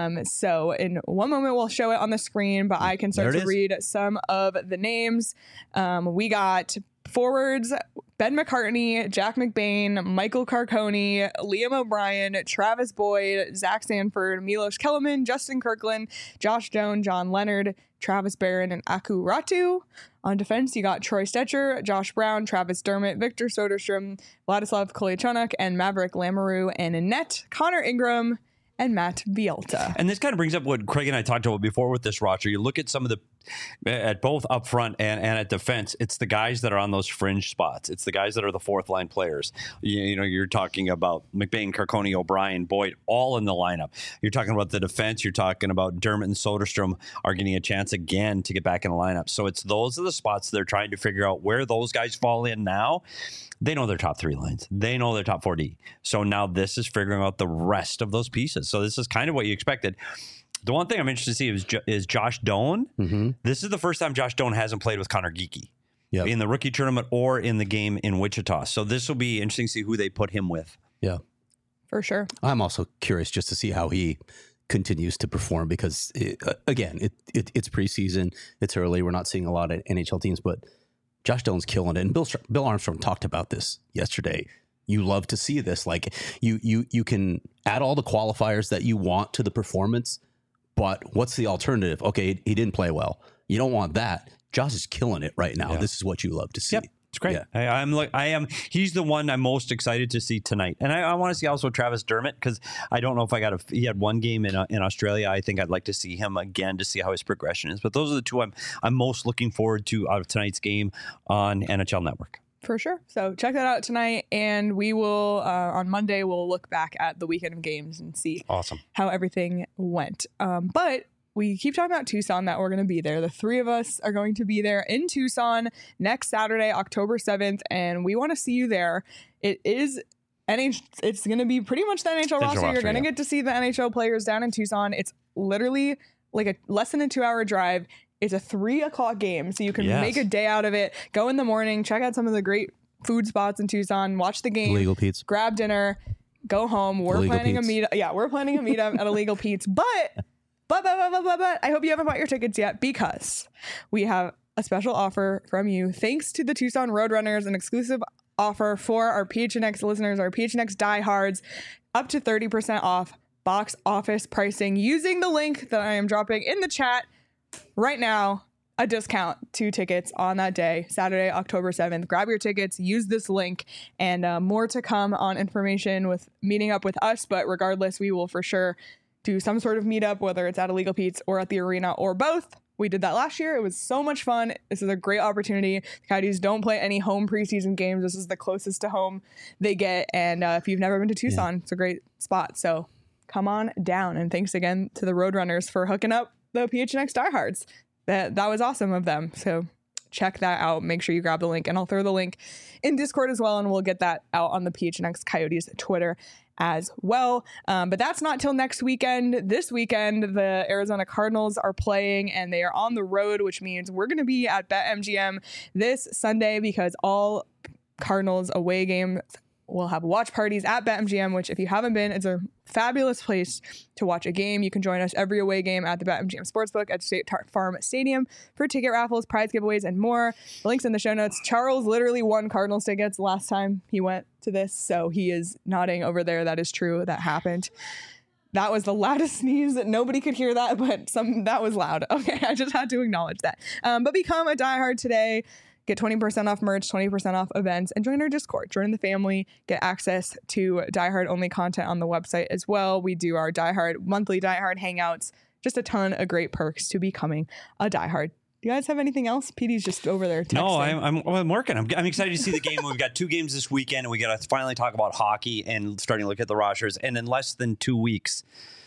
So in one moment we'll show it on the screen, but I can start to read some of the names. We got forwards: Ben McCartney, Jack McBain, Michael Carconi, Liam O'Brien, Travis Boyd, Zach Sanford, Milos Kellerman, Justin Kirkland, Josh Doan, John Leonard, Travis Barron, and Aku Ratu. On defense, you got Troy Stetcher, Josh Brown, Travis Dermott, Victor Soderstrom, Vladislav Kolyachonok, and Maverick Lamoureux, and in net, Connor Ingram and Matt Bielta. And this kind of brings up what Craig and I talked about before with this roster. You look at some of the, at both up front and at defense, it's the guys that are on those fringe spots. It's the guys that are the fourth line players. You know, you're talking about McBain, Carconi, O'Brien, Boyd, all in the lineup. You're talking about the defense. You're talking about Dermott and Soderstrom are getting a chance again to get back in the lineup. So it's those are the spots they're trying to figure out where those guys fall in now. They know their top three lines. They know their top 4D. So now this is figuring out the rest of those pieces. So this is kind of what you expected. The one thing I'm interested to see is Josh Doan. Mm-hmm. This is the first time Josh Doan hasn't played with Connor Geekie in the rookie tournament or in the game in Wichita. So this will be interesting to see who they put him with. Yeah, for sure. I'm also curious just to see how he continues to perform because, it's preseason. It's early. We're not seeing a lot of NHL teams, but Josh Doan's killing it. And Bill Armstrong talked about this yesterday. You love to see this. Like you can add all the qualifiers that you want to the performance, but what's the alternative? Okay, he didn't play well. You don't want that. Josh is killing it right now. Yeah. This is what you love to see. Yep. It's great. Yeah. He's the one I'm most excited to see tonight. And I want to see also Travis Dermott because I don't know if he had one game in Australia. I think I'd like to see him again to see how his progression is. But those are the two I'm most looking forward to out of tonight's game on NHL Network. For sure. So check that out tonight. And we will, on Monday, we'll look back at the weekend of games and see how everything went. But we keep talking about Tucson, that we're going to be there. The three of us are going to be there in Tucson next Saturday, October 7th, and we want to see you there. It's going to be pretty much the NHL roster. You're going to get to see the NHL players down in Tucson. It's literally like a less than a 2-hour drive. It's a 3:00 game, so you can make a day out of it. Go in the morning, check out some of the great food spots in Tucson, watch the game, Illegal Pete's, grab dinner, go home. We're planning a meetup. Yeah, we're planning a meetup at Illegal Pete's, but But I hope you haven't bought your tickets yet, because we have a special offer from you. Thanks to the Tucson Roadrunners, an exclusive offer for our PHNX listeners, our PHNX diehards, up to 30% off box office pricing using the link that I am dropping in the chat right now. A discount, 2 tickets on that day, Saturday, October 7th. Grab your tickets, use this link, and more to come on information with meeting up with us. But regardless, we will for sure do some sort of meetup, whether it's at Illegal Pete's or at the arena or both. We did that last year. It was so much fun. This is a great opportunity. The Coyotes don't play any home preseason games. This is the closest to home they get. And if you've never been to Tucson, it's a great spot. So come on down. And thanks again to the Roadrunners for hooking up the PHNX diehards. That was awesome of them. So check that out. Make sure you grab the link, and I'll throw the link in Discord as well, and we'll get that out on the PHNX Coyotes Twitter as well. But that's not till next weekend. This weekend, the Arizona Cardinals are playing, and they are on the road, which means we're going to be at BetMGM this Sunday, because all Cardinals away games will have watch parties at BetMGM, which if you haven't been, it's a fabulous place to watch a game. You can join us every away game at the BetMGM Sportsbook at State Farm Stadium for ticket raffles, prize giveaways, and more. The link's in the show notes. Charles literally won Cardinals tickets last time he went to this, so he is nodding over there. That is true. That happened. That was the loudest sneeze. Nobody could hear that, but that was loud. Okay, I just had to acknowledge that. But become a diehard today. Get 20% off merch, 20% off events, and join our Discord. Join the family. Get access to diehard only content on the website as well. We do our monthly diehard hangouts. Just a ton of great perks to becoming a diehard. Do you guys have anything else? Petey's just over there texting. No, I'm working. I'm excited to see the game. We've got 2 games this weekend, and we got to finally talk about hockey and starting to look at the rosters. And in less than 2 weeks,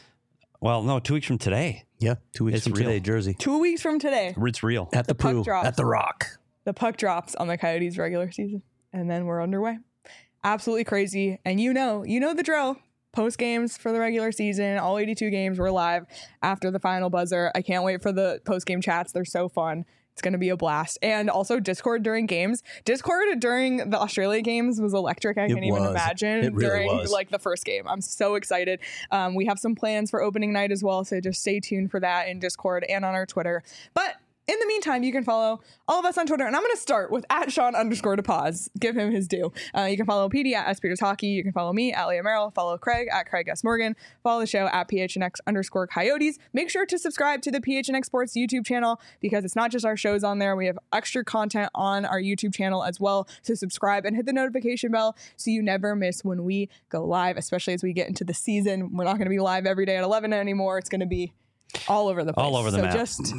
well, no, 2 weeks from today. Yeah, 2 weeks from today, Jersey. 2 weeks from today. It's real. At the Pooh, at the Rock. The puck drops on the Coyotes regular season, and then we're underway. Absolutely crazy. And you know the drill. Post games for the regular season, all 82 games, we're live after the final buzzer. I can't wait for the post game chats. They're so fun. It's going to be a blast. And also Discord during games. Discord during the Australia games was electric. I can't even imagine. It really during was. like the first game. I'm so excited. We have some plans for opening night as well, so just stay tuned for that in Discord and on our Twitter. But in the meantime, you can follow all of us on Twitter, and I'm going to start with @Sean_DePaz. Give him his due. You can follow PD at SPeters Hockey. You can follow me at Leah Merrill. Follow Craig at Craig S. Morgan. Follow the show at PHNX_Coyotes. Make sure to subscribe to the PHNX Sports YouTube channel, because it's not just our shows on there. We have extra content on our YouTube channel as well. So subscribe and hit the notification bell so you never miss when we go live, especially as we get into the season. We're not going to be live every day at 11 anymore. It's going to be all over the place. All over the map. So just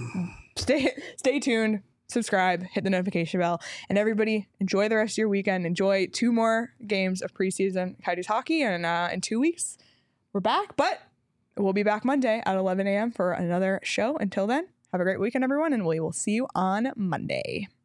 stay tuned, subscribe, hit the notification bell, and everybody enjoy the rest of your weekend. Enjoy 2 more games of preseason Coyotes hockey, and in 2 weeks we're back. But we'll be back Monday at 11 a.m. for another show. Until then, have a great weekend, everyone, and we will see you on Monday.